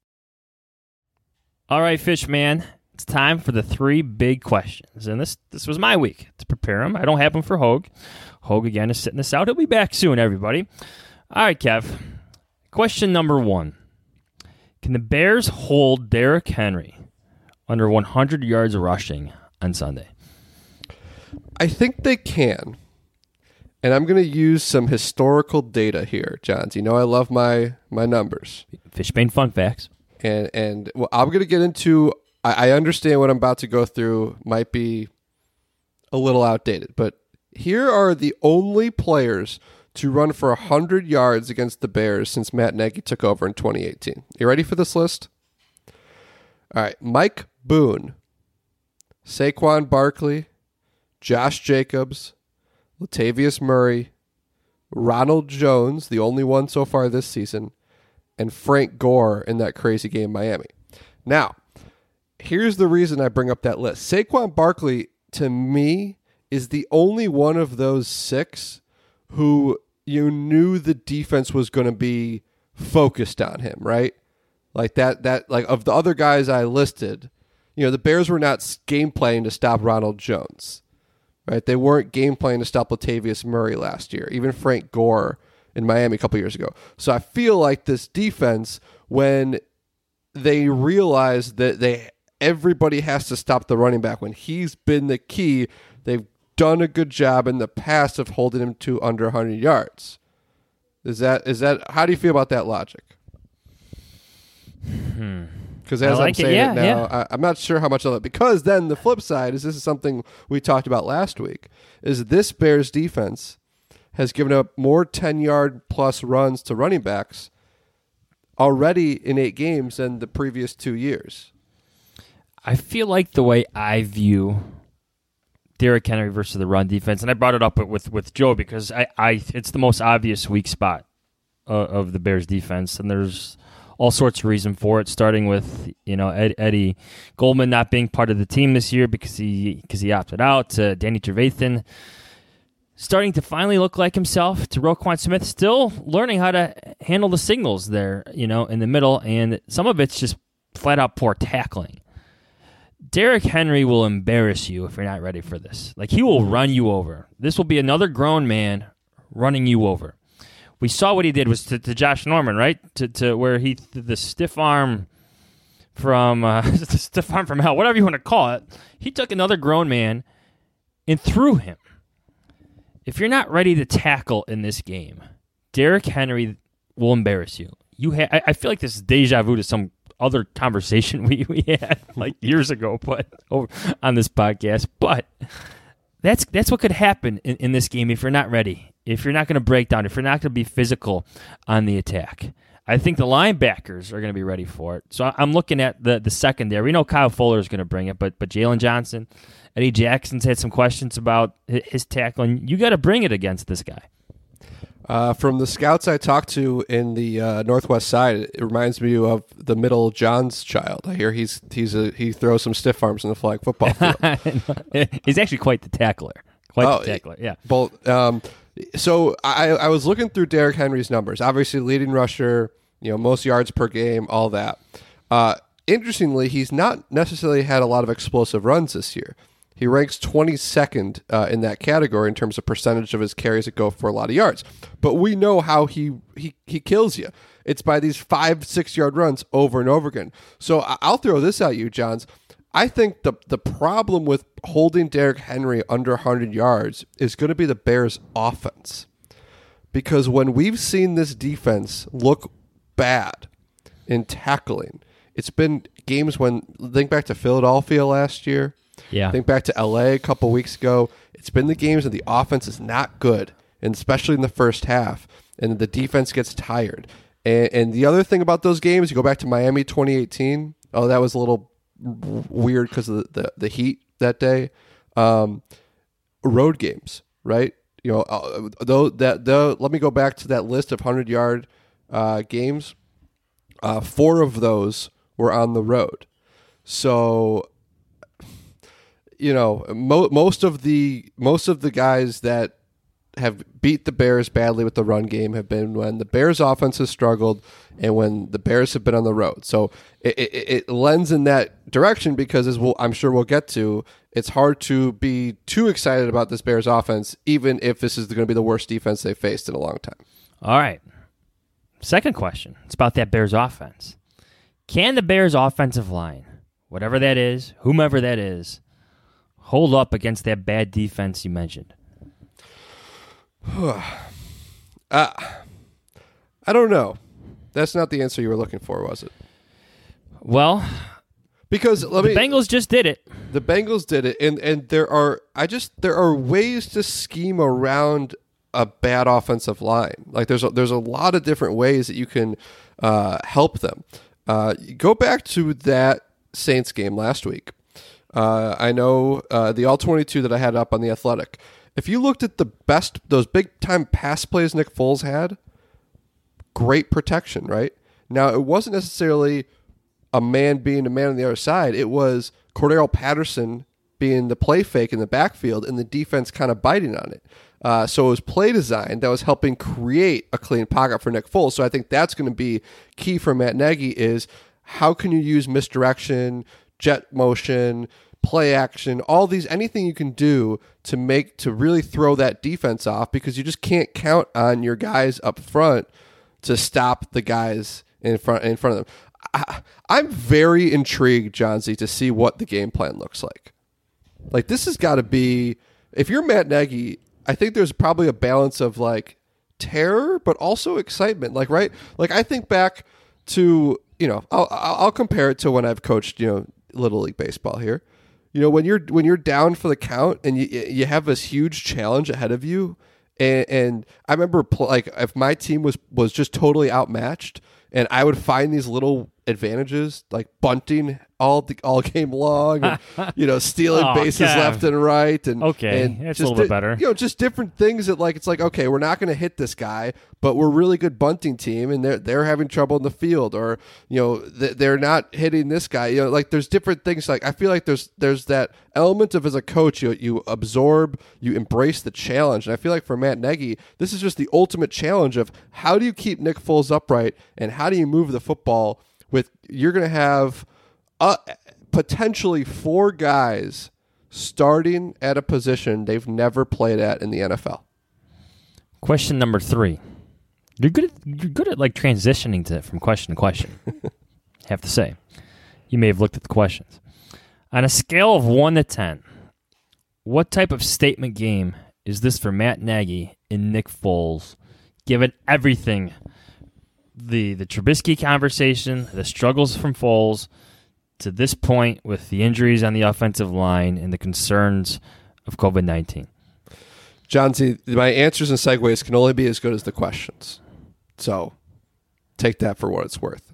All right, Fishman. It's time for the 3 big questions. And this was my week to prepare them. I don't have them for Hogue. Hogue, again, is sitting this out. He'll be back soon, everybody. All right, Kev. Question number 1. Can the Bears hold Derrick Henry under 100 yards rushing on Sunday? I think they can. And I'm going to use some historical data here, Johns. I love my numbers. Fishbane fun facts. And well, I'm going to get into, I understand what I'm about to go through might be a little outdated, but here are the only players to run for 100 yards against the Bears since Matt Nagy took over in 2018. You ready for this list? All right, Mike Boone, Saquon Barkley, Josh Jacobs, Latavius Murray, Ronald Jones, the only one so far this season, and Frank Gore in that crazy game in Miami. Now, here's the reason I bring up that list. Saquon Barkley, to me, is the only one of those 6 who you knew the defense was going to be focused on him, right? Like that like of the other guys I listed, the Bears were not game playing to stop Ronald Jones, right? They weren't game playing to stop Latavius Murray last year, even Frank Gore in Miami a couple years ago. So I feel like this defense, when they realize that everybody has to stop the running back when he's been the key, they've done a good job in the past of holding him to under 100 yards. Is that how do you feel about that logic? Because as I'm saying it now, I'm not sure how much of that. Because then the flip side is, this is something we talked about last week, is this Bears defense has given up more 10-yard plus runs to running backs already in 8 games than the previous 2 years. I feel like the way I view Derrick Henry versus the run defense, and I brought it up with Joe because it's the most obvious weak spot of the Bears defense, and there's all sorts of reason for it, starting with Eddie Goldman not being part of the team this year because he opted out, to Danny Trevathan starting to finally look like himself, to Roquan Smith still learning how to handle the signals there, in the middle, and some of it's just flat out poor tackling. Derrick Henry will embarrass you if you're not ready for this. Like, he will run you over. This will be another grown man running you over. We saw what he did was to Josh Norman, right? To where the stiff arm from hell, whatever you want to call it. He took another grown man and threw him. If you're not ready to tackle in this game, Derrick Henry will embarrass you. I feel like this is deja vu to some other conversation we had like years ago, but on this podcast. But that's what could happen in this game if you're not ready. If you're not going to break down, if you're not going to be physical on the attack. I think the linebackers are going to be ready for it. So I'm looking at the secondary. We know Kyle Fuller is going to bring it, but Jalen Johnson, Eddie Jackson's had some questions about his tackling. You got to bring it against this guy. From the scouts I talked to in the Northwest side, it reminds me of the middle John's child. I hear he throws some stiff arms in the flag football field. He's actually quite the tackler. Yeah. Both. So I was looking through Derrick Henry's numbers. Obviously, leading rusher, most yards per game, all that. Interestingly, he's not necessarily had a lot of explosive runs this year. He ranks 22nd in that category in terms of percentage of his carries that go for a lot of yards. But we know how he kills you. It's by these 5-6 yard runs over and over again. So I'll throw this at you, Johns. I think the problem with holding Derrick Henry under 100 yards is going to be the Bears' offense. Because when we've seen this defense look bad in tackling, it's been games when, think back to Philadelphia last year. Yeah. Think back to LA a couple weeks ago. It's been the games that the offense is not good, and especially in the first half, and the defense gets tired. And the other thing about those games, you go back to Miami 2018. Oh, that was a little weird because of the heat that day. Road games, right? Let me go back to that list of 100-yard games. 4 of those were on the road. So, most of the guys that have beat the Bears badly with the run game have been when the Bears offense has struggled and when the Bears have been on the road. So it lends in that direction because, as I'm sure we'll get to, it's hard to be too excited about this Bears offense, even if this is going to be the worst defense they've faced in a long time. All right. Second question. It's about that Bears offense. Can the Bears offensive line, whatever that is, whomever that is, hold up against that bad defense you mentioned? I don't know. That's not the answer you were looking for, was it? Well, because the Bengals just did it. The Bengals did it, and there are ways to scheme around a bad offensive line. Like there's a lot of different ways that you can help them. Go back to that Saints game last week. I know the All-22 that I had up on The Athletic. If you looked at those big-time pass plays Nick Foles had, great protection, right? Now, it wasn't necessarily a man being a man on the other side. It was Cordero Patterson being the play fake in the backfield and the defense kind of biting on it. So it was play design that was helping create a clean pocket for Nick Foles. So I think that's going to be key for Matt Nagy is how can you use misdirection, jet motion, play action, all these, anything you can do to really throw that defense off, because you just can't count on your guys up front to stop the guys in front of them. I'm very intrigued, Johnsy, to see what the game plan looks like. Like, this has got to be, if you're Matt Nagy, I think there's probably a balance of like terror, but also excitement. Like, right? Like, I think back to, I'll compare it to when I've coached, Little League Baseball here. When you're down for the count and you have this huge challenge ahead of you, and I remember if my team was just totally outmatched, and I would find these little advantages, like bunting all game long, and, stealing bases left and right, and that's a little bit better. Just different things that it's like, okay, we're not going to hit this guy, but we're a really good bunting team, and they're having trouble in the field, or they're not hitting this guy. There's different things. Like I feel like there's that element of, as a coach, you absorb, you embrace the challenge, and I feel like for Matt Nagy, this is just the ultimate challenge of how do you keep Nick Foles upright, and how do you move the football with, you're going to have potentially 4 guys starting at a position they've never played at in the NFL. Question number 3. You're good at transitioning from question to question. Have to say, you may have looked at the questions. On a scale of 1 to 10, what type of statement game is this for Matt Nagy and Nick Foles, given everything? The Trubisky conversation, the struggles from Foles, to this point with the injuries on the offensive line and the concerns of COVID-19. John, see, my answers and segues can only be as good as the questions. So take that for what it's worth.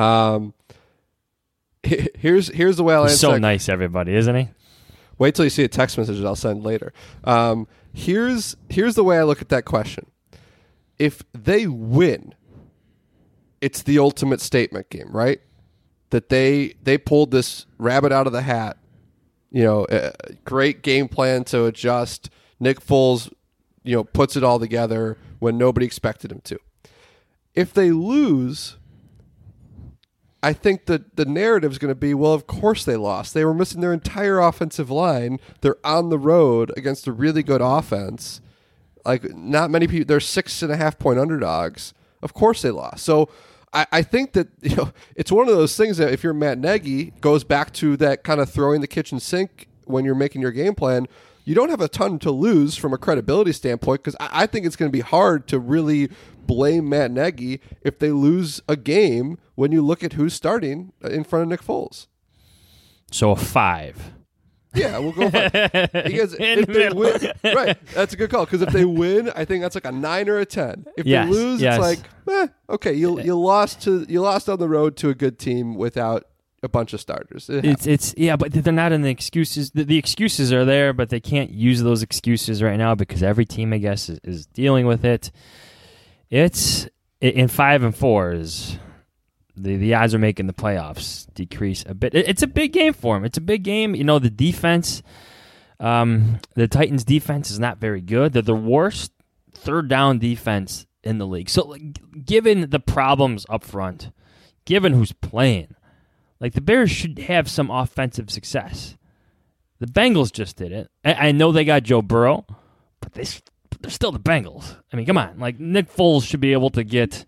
Here's the way I'll answer. He's so nice, everybody, isn't he? Wait till you see a text message that I'll send later. Here's the way I look at that question. If they win, it's the ultimate statement game, right? That they pulled this rabbit out of the hat. A great game plan to adjust. Nick Foles, puts it all together when nobody expected him to. If they lose, I think that the narrative is going to be, well, of course they lost. They were missing their entire offensive line. They're on the road against a really good offense. Like, not many people, they're 6.5-point underdogs. Of course they lost. So I think that it's one of those things that if you're Matt Nagy, goes back to that kind of throwing the kitchen sink when you're making your game plan. You don't have a ton to lose from a credibility standpoint, because I think it's going to be hard to really blame Matt Nagy if they lose a game when you look at who's starting in front of Nick Foles. So a 5. Yeah, we'll go 5. Because if they win, right, that's a good call. Because if they win, I think that's like a 9 or a 10. If they lose, it's like, okay, you lost on the road to a good team without a bunch of starters. But they're not in the excuses. The excuses are there, but they can't use those excuses right now because every team, I guess, is dealing with it. It's in 5 and 4 is. The odds are making the playoffs decrease a bit. It's a big game for him. It's a big game. The defense, the Titans' defense is not very good. They're the worst third down defense in the league. So, given the problems up front, given who's playing, the Bears should have some offensive success. The Bengals just did it. I know they got Joe Burrow, but they're still the Bengals. I mean, come on. Nick Foles should be able to get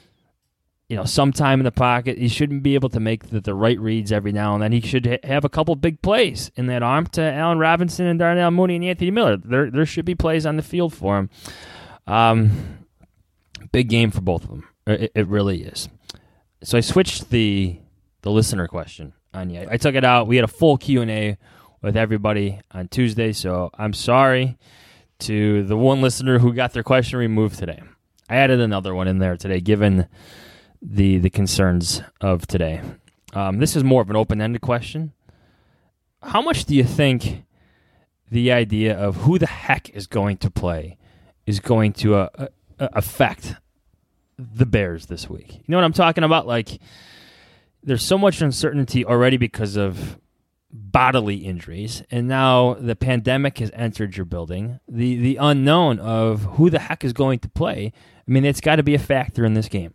some time in the pocket. He shouldn't be able to make the right reads every now and then. He should have a couple big plays in that arm to Allen Robinson and Darnell Mooney and Anthony Miller. There should be plays on the field for him. Big game for both of them. It really is. So I switched the listener question on you. I took it out. We had a full Q&A with everybody on Tuesday, so I'm sorry to the one listener who got their question removed today. I added another one in there today, given the concerns of today. This is more of an open-ended question. How much do you think the idea of who the heck is going to play is going to affect the Bears this week? You know what I'm talking about? There's so much uncertainty already because of bodily injuries, and now the pandemic has entered your building. The unknown of who the heck is going to play, I mean, it's got to be a factor in this game.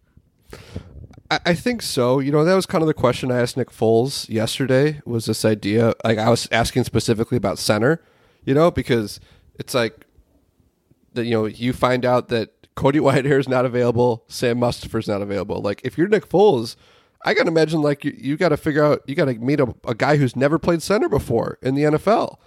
I think so. That was kind of the question I asked Nick Foles yesterday, was this idea. I was asking specifically about center, because it's like that, you find out that Cody Whitehair is not available, Sam Mustipher is not available. If you're Nick Foles, I got to imagine you got to figure out, you got to meet a guy who's never played center before in the NFL.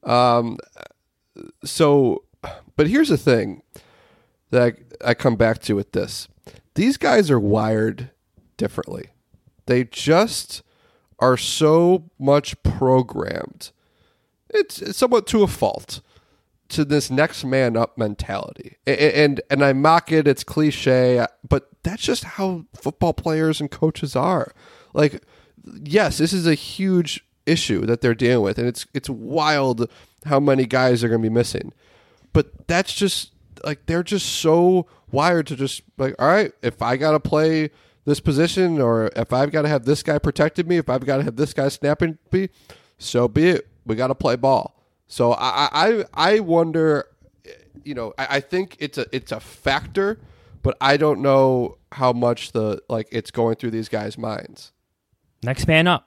But here's the thing that I come back to with this. These guys are wired differently. They just are so much programmed. It's somewhat to a fault to this next man up mentality. And I mock it, it's cliche, but that's just how football players and coaches are. Like, yes, this is a huge issue that they're dealing with, and it's wild how many guys are going to be missing. But that's just like they're just so wired to just like, all right, if I got to play this position, or if I've got to have this guy protected me, if I've got to have this guy snapping me, so be it. We got to play ball. So I wonder, I think it's a factor, but I don't know how much it's going through these guys' minds. Next man up.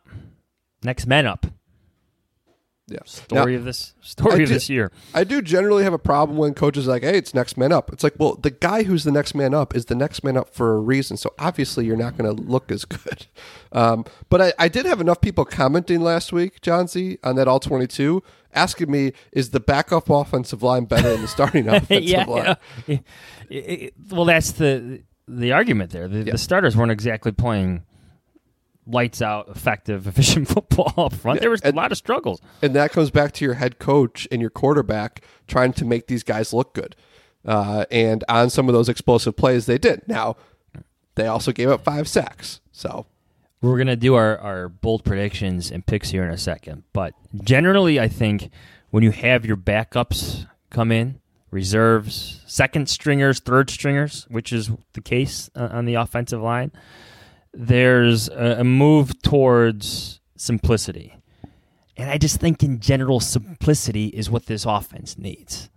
Yeah. Story of this year. I do generally have a problem when coaches are like, hey, it's next man up. It's like, well, the guy who's the next man up is the next man up for a reason. So obviously you're not going to look as good. But I did have enough people commenting last week, John Z, on that All 22, asking me, is the backup offensive line better than the starting offensive line? Yeah. Well, that's the argument there. The starters weren't exactly playing lights out, effective, efficient football up front. There was a lot of struggles. And that comes back to your head coach and your quarterback trying to make these guys look good. And on some of those explosive plays, they did. Now, they also gave up 5 sacks. So we're going to do our bold predictions and picks here in a second. But generally, I think when you have your backups come in, reserves, second stringers, third stringers, which is the case on the offensive line, there's a move towards simplicity. And I just think in general, simplicity is what this offense needs.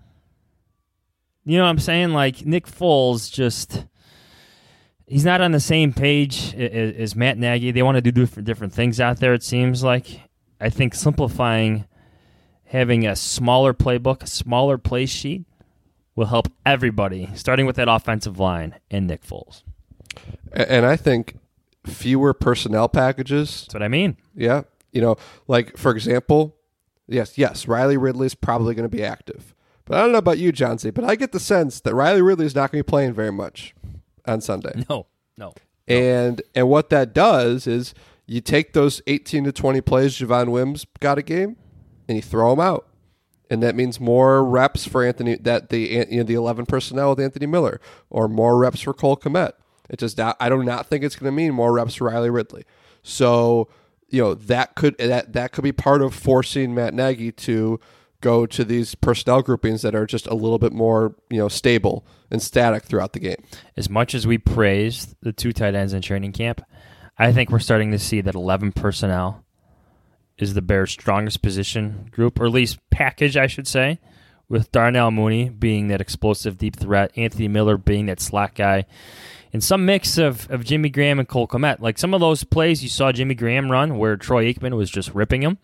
You know what I'm saying? Like Nick Foles he's not on the same page as Matt Nagy. They want to do different things out there, it seems like. I think simplifying, having a smaller playbook, a smaller play sheet will help everybody, starting with that offensive line and Nick Foles. And I think fewer personnel packages. That's what I mean. Yeah. Like, for example, yes, Riley Ridley's probably going to be active. But I don't know about you, John C., but I get the sense that Riley Ridley's not going to be playing very much on Sunday. No. And what that does is you take those 18 to 20 plays Javon Wims got a game, and you throw them out. And that means more reps for Anthony, the 11 personnel with Anthony Miller, or more reps for Cole Kmet. I do not think it's going to mean more reps for Riley Ridley. So, that could be part of forcing Matt Nagy to go to these personnel groupings that are just a little bit more, stable and static throughout the game. As much as we praised the 2 tight ends in training camp, I think we're starting to see that 11 personnel is the Bears' strongest position group, or at least package, I should say, with Darnell Mooney being that explosive deep threat, Anthony Miller being that slot guy, and some mix of Jimmy Graham and Cole Kmet. Like some of those plays you saw Jimmy Graham run where Troy Aikman was just ripping him.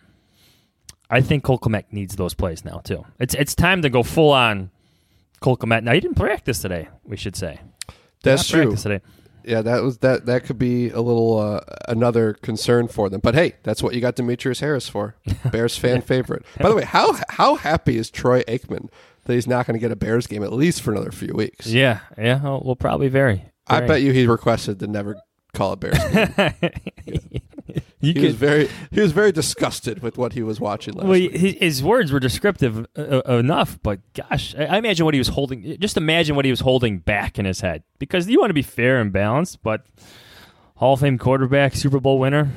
I think Cole Kmet needs those plays now, too. It's time to go full-on Cole Kmet. Now, he didn't practice today, we should say. That's true. Today. Yeah, that could be a little another concern for them. But hey, that's what you got Demetrius Harris for. Bears fan favorite. By the way, how happy is Troy Aikman that he's not going to get a Bears game at least for another few weeks? Yeah, we'll probably vary. I bet you he requested to never call a Bears game. He was very disgusted with what he was watching last week. His words were descriptive enough, but gosh, I imagine what he was holding. Just imagine what he was holding back in his head, because you want to be fair and balanced. But Hall of Fame quarterback, Super Bowl winner,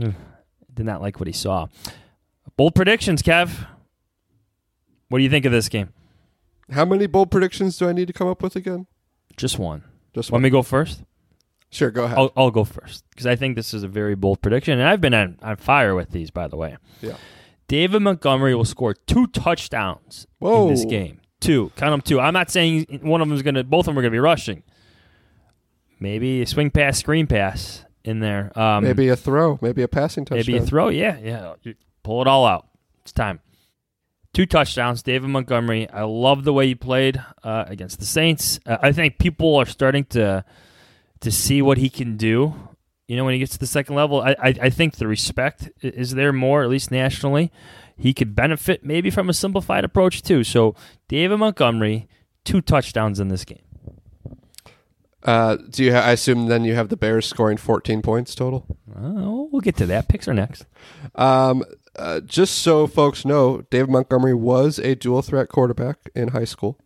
did not like what he saw. Bold predictions, Kev. What do you think of this game? How many bold predictions do I need to come up with again? Just one. Just one. Want me to go first? Sure, go ahead. I'll go first, because I think this is a very bold prediction, and I've been on fire with these, by the way. Yeah. David Montgomery will score 2 touchdowns in this game. 2. Count them 2. I'm not saying both of them are going to be rushing. Maybe a swing pass, screen pass in there. Maybe a throw, maybe a passing touchdown. Maybe a throw, yeah. Pull it all out. It's time. 2 touchdowns, David Montgomery. I love the way he played against the Saints. I think people are starting to see what he can do, when he gets to the second level. I think the respect is there more, at least nationally. He could benefit maybe from a simplified approach too. So David Montgomery, 2 touchdowns in this game. I assume then you have the Bears scoring 14 points total? We'll get to that. Picks are next. Just so folks know, David Montgomery was a dual threat quarterback in high school.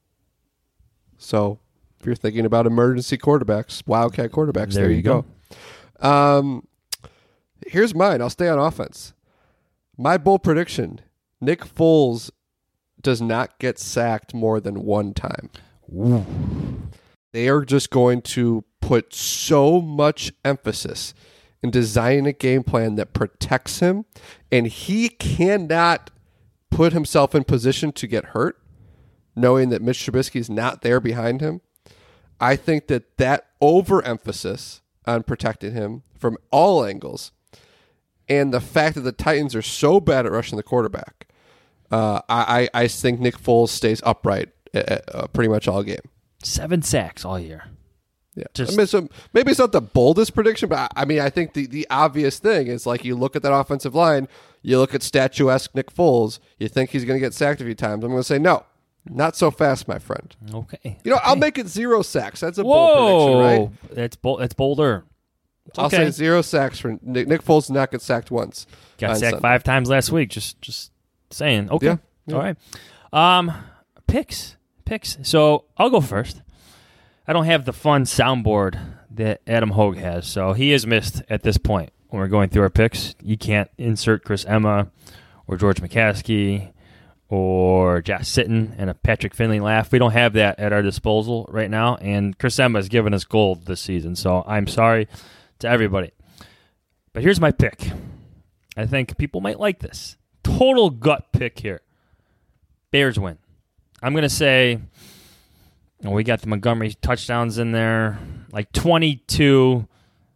So if you're thinking about emergency quarterbacks, Wildcat quarterbacks, there you go. Here's mine. I'll stay on offense. My bold prediction, Nick Foles does not get sacked more than one time. Ooh. They are just going to put so much emphasis in designing a game plan that protects him, and he cannot put himself in position to get hurt, knowing that Mitch Trubisky is not there behind him. I think that overemphasis on protecting him from all angles, and the fact that the Titans are so bad at rushing the quarterback, I think Nick Foles stays upright pretty much all game. 7 sacks all year. Yeah, maybe it's not the boldest prediction, but I think the obvious thing is, like, you look at that offensive line, you look at statuesque Nick Foles, you think he's going to get sacked a few times. I'm going to say no. Not so fast, my friend. Okay. I'll make it 0 sacks. That's a bold prediction, right? That's bolder. I'll say 0 sacks for Nick Foles. Did not get sacked once. Got sacked 5 times last week. Just saying. Okay. Yeah. All right. Picks. So I'll go first. I don't have the fun soundboard that Adam Hogue has, so he is missed at this point when we're going through our picks. You can't insert Chris Emma or George McCaskey or Josh Sitton and a Patrick Finley laugh. We don't have that at our disposal right now, and Chris Emma has given us gold this season, so I'm sorry to everybody. But here's my pick. I think people might like this. Total gut pick here. Bears win. I'm going to say, we got the Montgomery touchdowns in there, like 22-18.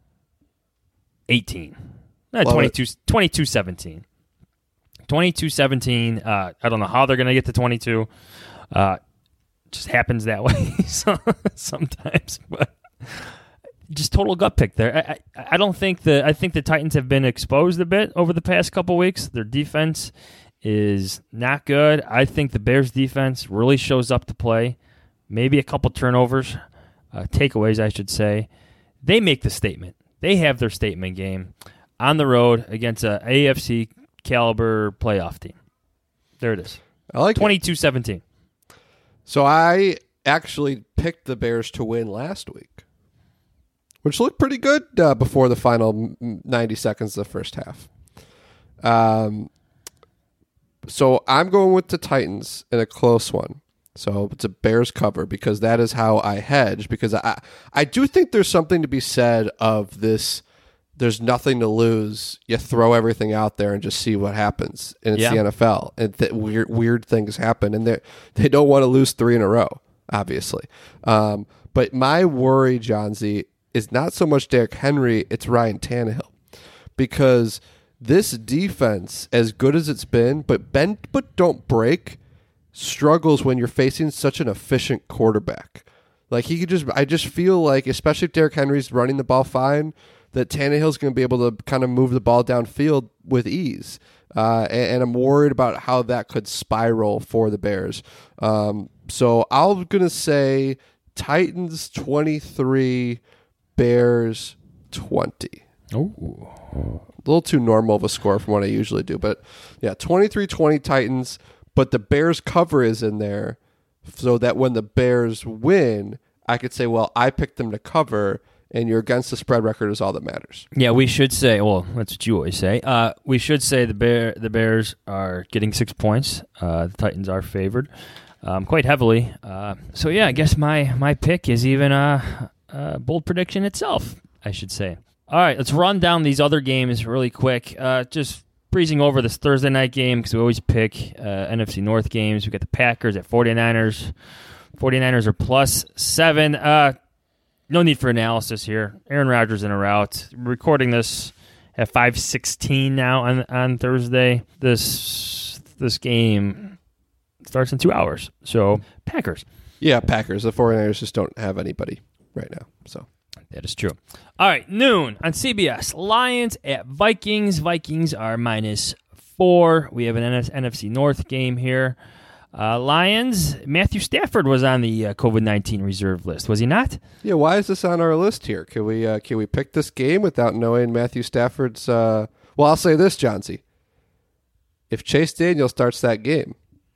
22-17. 22-17. I don't know how they're going to get to 22. Just happens that way sometimes. But just total gut pick there. I don't think I think the Titans have been exposed a bit over the past couple weeks. Their defense is not good. I think the Bears defense really shows up to play. Maybe a couple turnovers, takeaways, I should say. They make the statement. They have their statement game on the road against a AFC caliber playoff team. There it is. I like 22-17. So I actually picked the Bears to win last week, which looked pretty good before the final 90 seconds of the first half. So I'm going with the Titans in a close one. So it's a Bears cover because that is how I hedge, because I do think there's something to be said of this. There's nothing to lose. You throw everything out there and just see what happens. And it's the NFL. And weird things happen. And they don't want to lose 3 in a row, obviously. But my worry, John Z, is not so much Derrick Henry, it's Ryan Tannehill. Because this defense, as good as it's been, but bend but don't break, struggles when you're facing such an efficient quarterback. Like I just feel like, especially if Derrick Henry's running the ball fine, that Tannehill's going to be able to kind of move the ball downfield with ease. And I'm worried about how that could spiral for the Bears. So I'm going to say Titans 23, Bears 20. Ooh. A little too normal of a score from what I usually do. But yeah, 23-20 Titans. But the Bears cover is in there so that when the Bears win, I could say, well, I picked them to cover, and your against the spread record is all that matters. Yeah, we should say, well, that's what you always say. We should say the Bears are getting 6 points. The Titans are favored quite heavily. So, yeah, I guess my pick is even a bold prediction itself, I should say. All right, let's run down these other games really quick. Just breezing over this Thursday night game because we always pick NFC North games. We got the Packers at 49ers. 49ers are +7. No need for analysis here. Aaron Rodgers in a rout. We're recording this at 5:16 now on Thursday. This game starts in 2 hours. So Packers. Yeah, Packers. The 49ers just don't have anybody right now. So that is true. All right, noon on CBS. Lions at Vikings. Vikings are -4. We have an NFC North game here. Lions, Matthew Stafford was on the COVID-19 reserve list, was he not? Yeah, why is this on our list here? Can we pick this game without knowing Matthew Stafford's... Well, I'll say this, John C. If Chase Daniel starts that game,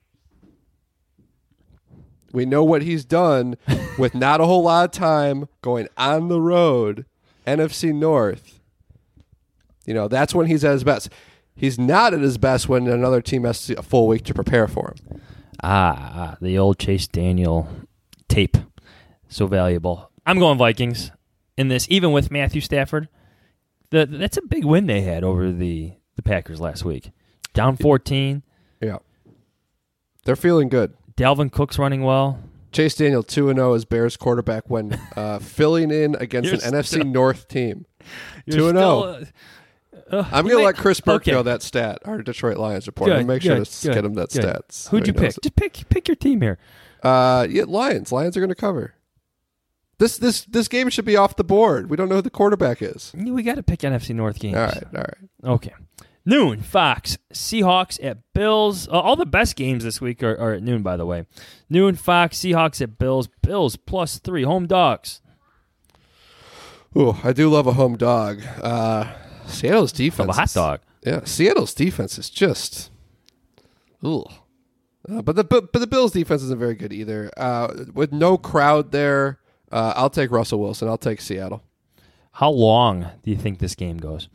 we know what he's done with not a whole lot of time going on the road, NFC North. That's when he's at his best. He's not at his best when another team has a full week to prepare for him. The old Chase Daniel tape. So valuable. I'm going Vikings in this, even with Matthew Stafford. That's a big win they had over the Packers last week. Down 14. Yeah. They're feeling good. Dalvin Cook's running well. Chase Daniel 2-0 as Bears quarterback when filling in against an NFC North team. 2-0. I'm going to let Chris Burke know that stat, our Detroit Lions reporter. I'm going to make sure to get him that stats. Who'd you pick? Just pick your team here. Lions. Lions are going to cover. This game should be off the board. We don't know who the quarterback is. We got to pick NFC North games. All right. Okay. Noon, Fox, Seahawks at Bills. All the best games this week are at noon, by the way. Noon, Fox, Seahawks at Bills. Bills +3, home dogs. Ooh, I do love a home dog. Seattle's defense. A hot dog. Yeah, Seattle's defense is just. Ooh. But the Bills' defense isn't very good either. With no crowd there, I'll take Russell Wilson. I'll take Seattle. How long do you think this game goes?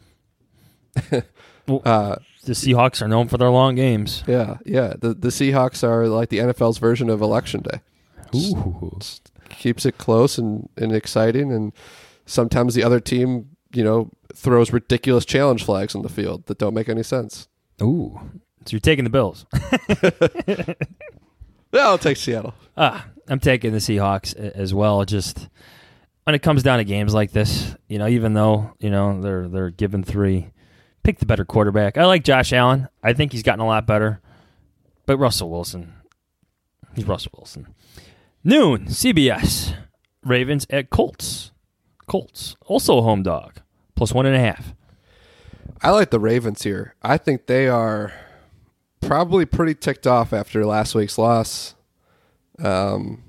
The Seahawks are known for their long games. Yeah. The Seahawks are like the NFL's version of Election Day. Ooh. Keeps it close and exciting, and sometimes the other team, throws ridiculous challenge flags on the field that don't make any sense. Ooh. So you're taking the Bills. Yeah, I'll take Seattle. I'm taking the Seahawks as well. Just when it comes down to games like this, even though, they're given 3, pick the better quarterback. I like Josh Allen. I think he's gotten a lot better. But Russell Wilson. He's Russell Wilson. Noon, CBS. Ravens at Colts. Colts, also a home dog, +1.5. I like the Ravens here. I think they are probably pretty ticked off after last week's loss. The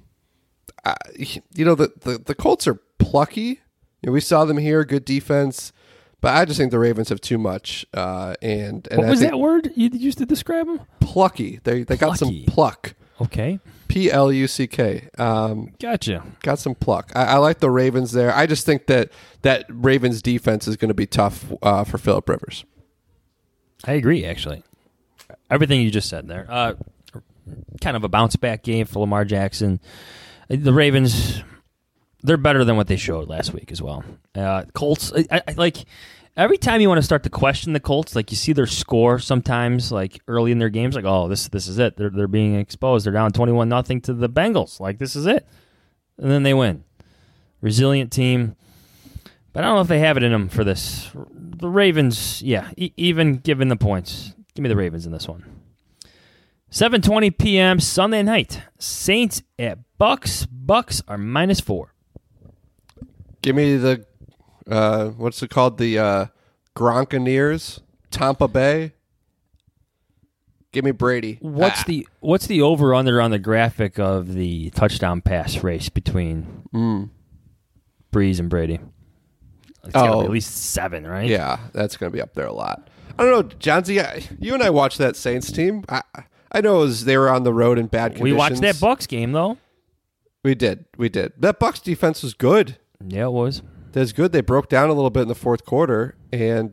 Colts are plucky. We saw them here, good defense, but I just think the Ravens have too much. And what was that word you used to describe them? Plucky. They got some pluck. Okay. Pluck. Gotcha. Got some pluck. I like the Ravens there. I just think that Ravens defense is going to be tough for Phillip Rivers. I agree, actually. Everything you just said there. Kind of a bounce-back game for Lamar Jackson. The Ravens, they're better than what they showed last week as well. Colts, I like... Every time you want to start to question the Colts, like you see their score sometimes, like early in their games, like, oh, this is it. They're being exposed. They're down 21-0 to the Bengals. Like, this is it. And then they win. Resilient team. But I don't know if they have it in them for this. The Ravens, yeah, even given the points, give me the Ravens in this one. 7:20 p.m. Sunday night. Saints at Bucks. Bucks are -4. Give me the... what's it called? The Gronkaneers, Tampa Bay. Give me Brady. What's the over under on the graphic of the touchdown pass race between Breeze and Brady? It's gotta be at least 7, right? Yeah, that's going to be up there a lot. I don't know, Johnsy. You and I watched that Saints team. I know they were on the road in bad conditions. We watched that Bucks game though. We did. That Bucks defense was good. Yeah, it was. That's good. They broke down a little bit in the fourth quarter, and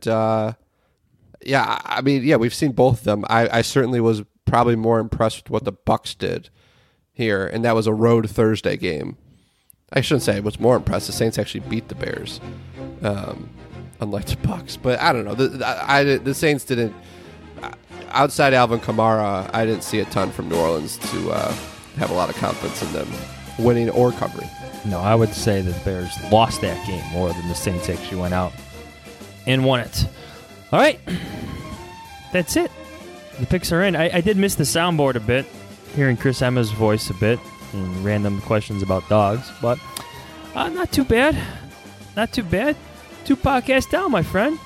we've seen both of them. I certainly was probably more impressed with what the Bucks did here, and that was a road Thursday game. I shouldn't say I was more impressed. The Saints actually beat the Bears, unlike the Bucks. But I don't know. The Saints didn't. Outside Alvin Kamara, I didn't see a ton from New Orleans to have a lot of confidence in them winning or covering. No, I would say the Bears lost that game more than the Saints actually went out and won it. All right. That's it. The picks are in. I did miss the soundboard a bit, hearing Chris Emma's voice a bit and random questions about dogs, but not too bad. Not too bad. 2 podcasts down, my friend.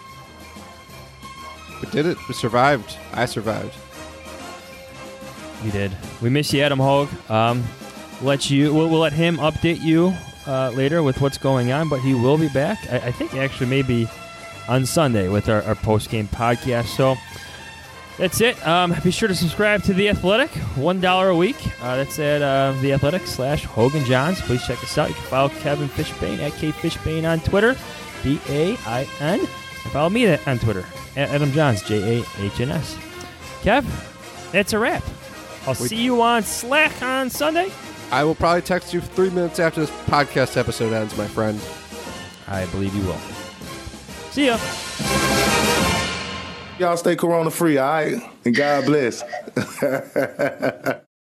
We did it. We survived. I survived. You did. We miss you, Adam Hogue. We'll let him update you later with what's going on, but he will be back. I think actually maybe on Sunday with our post-game podcast. So that's it. Be sure to subscribe to The Athletic, $1 a week. That's at The Athletic /Hogan Johns. Please check us out. You can follow Kevin Fishbain at KFishbain on Twitter, BAIN. And Follow me on Twitter at Adam Johns, JAHNS. Kev, that's a wrap. I'll see you on Slack on Sunday. I will probably text you 3 minutes after this podcast episode ends, my friend. I believe you will. See ya. Y'all stay corona free, all right? And God bless.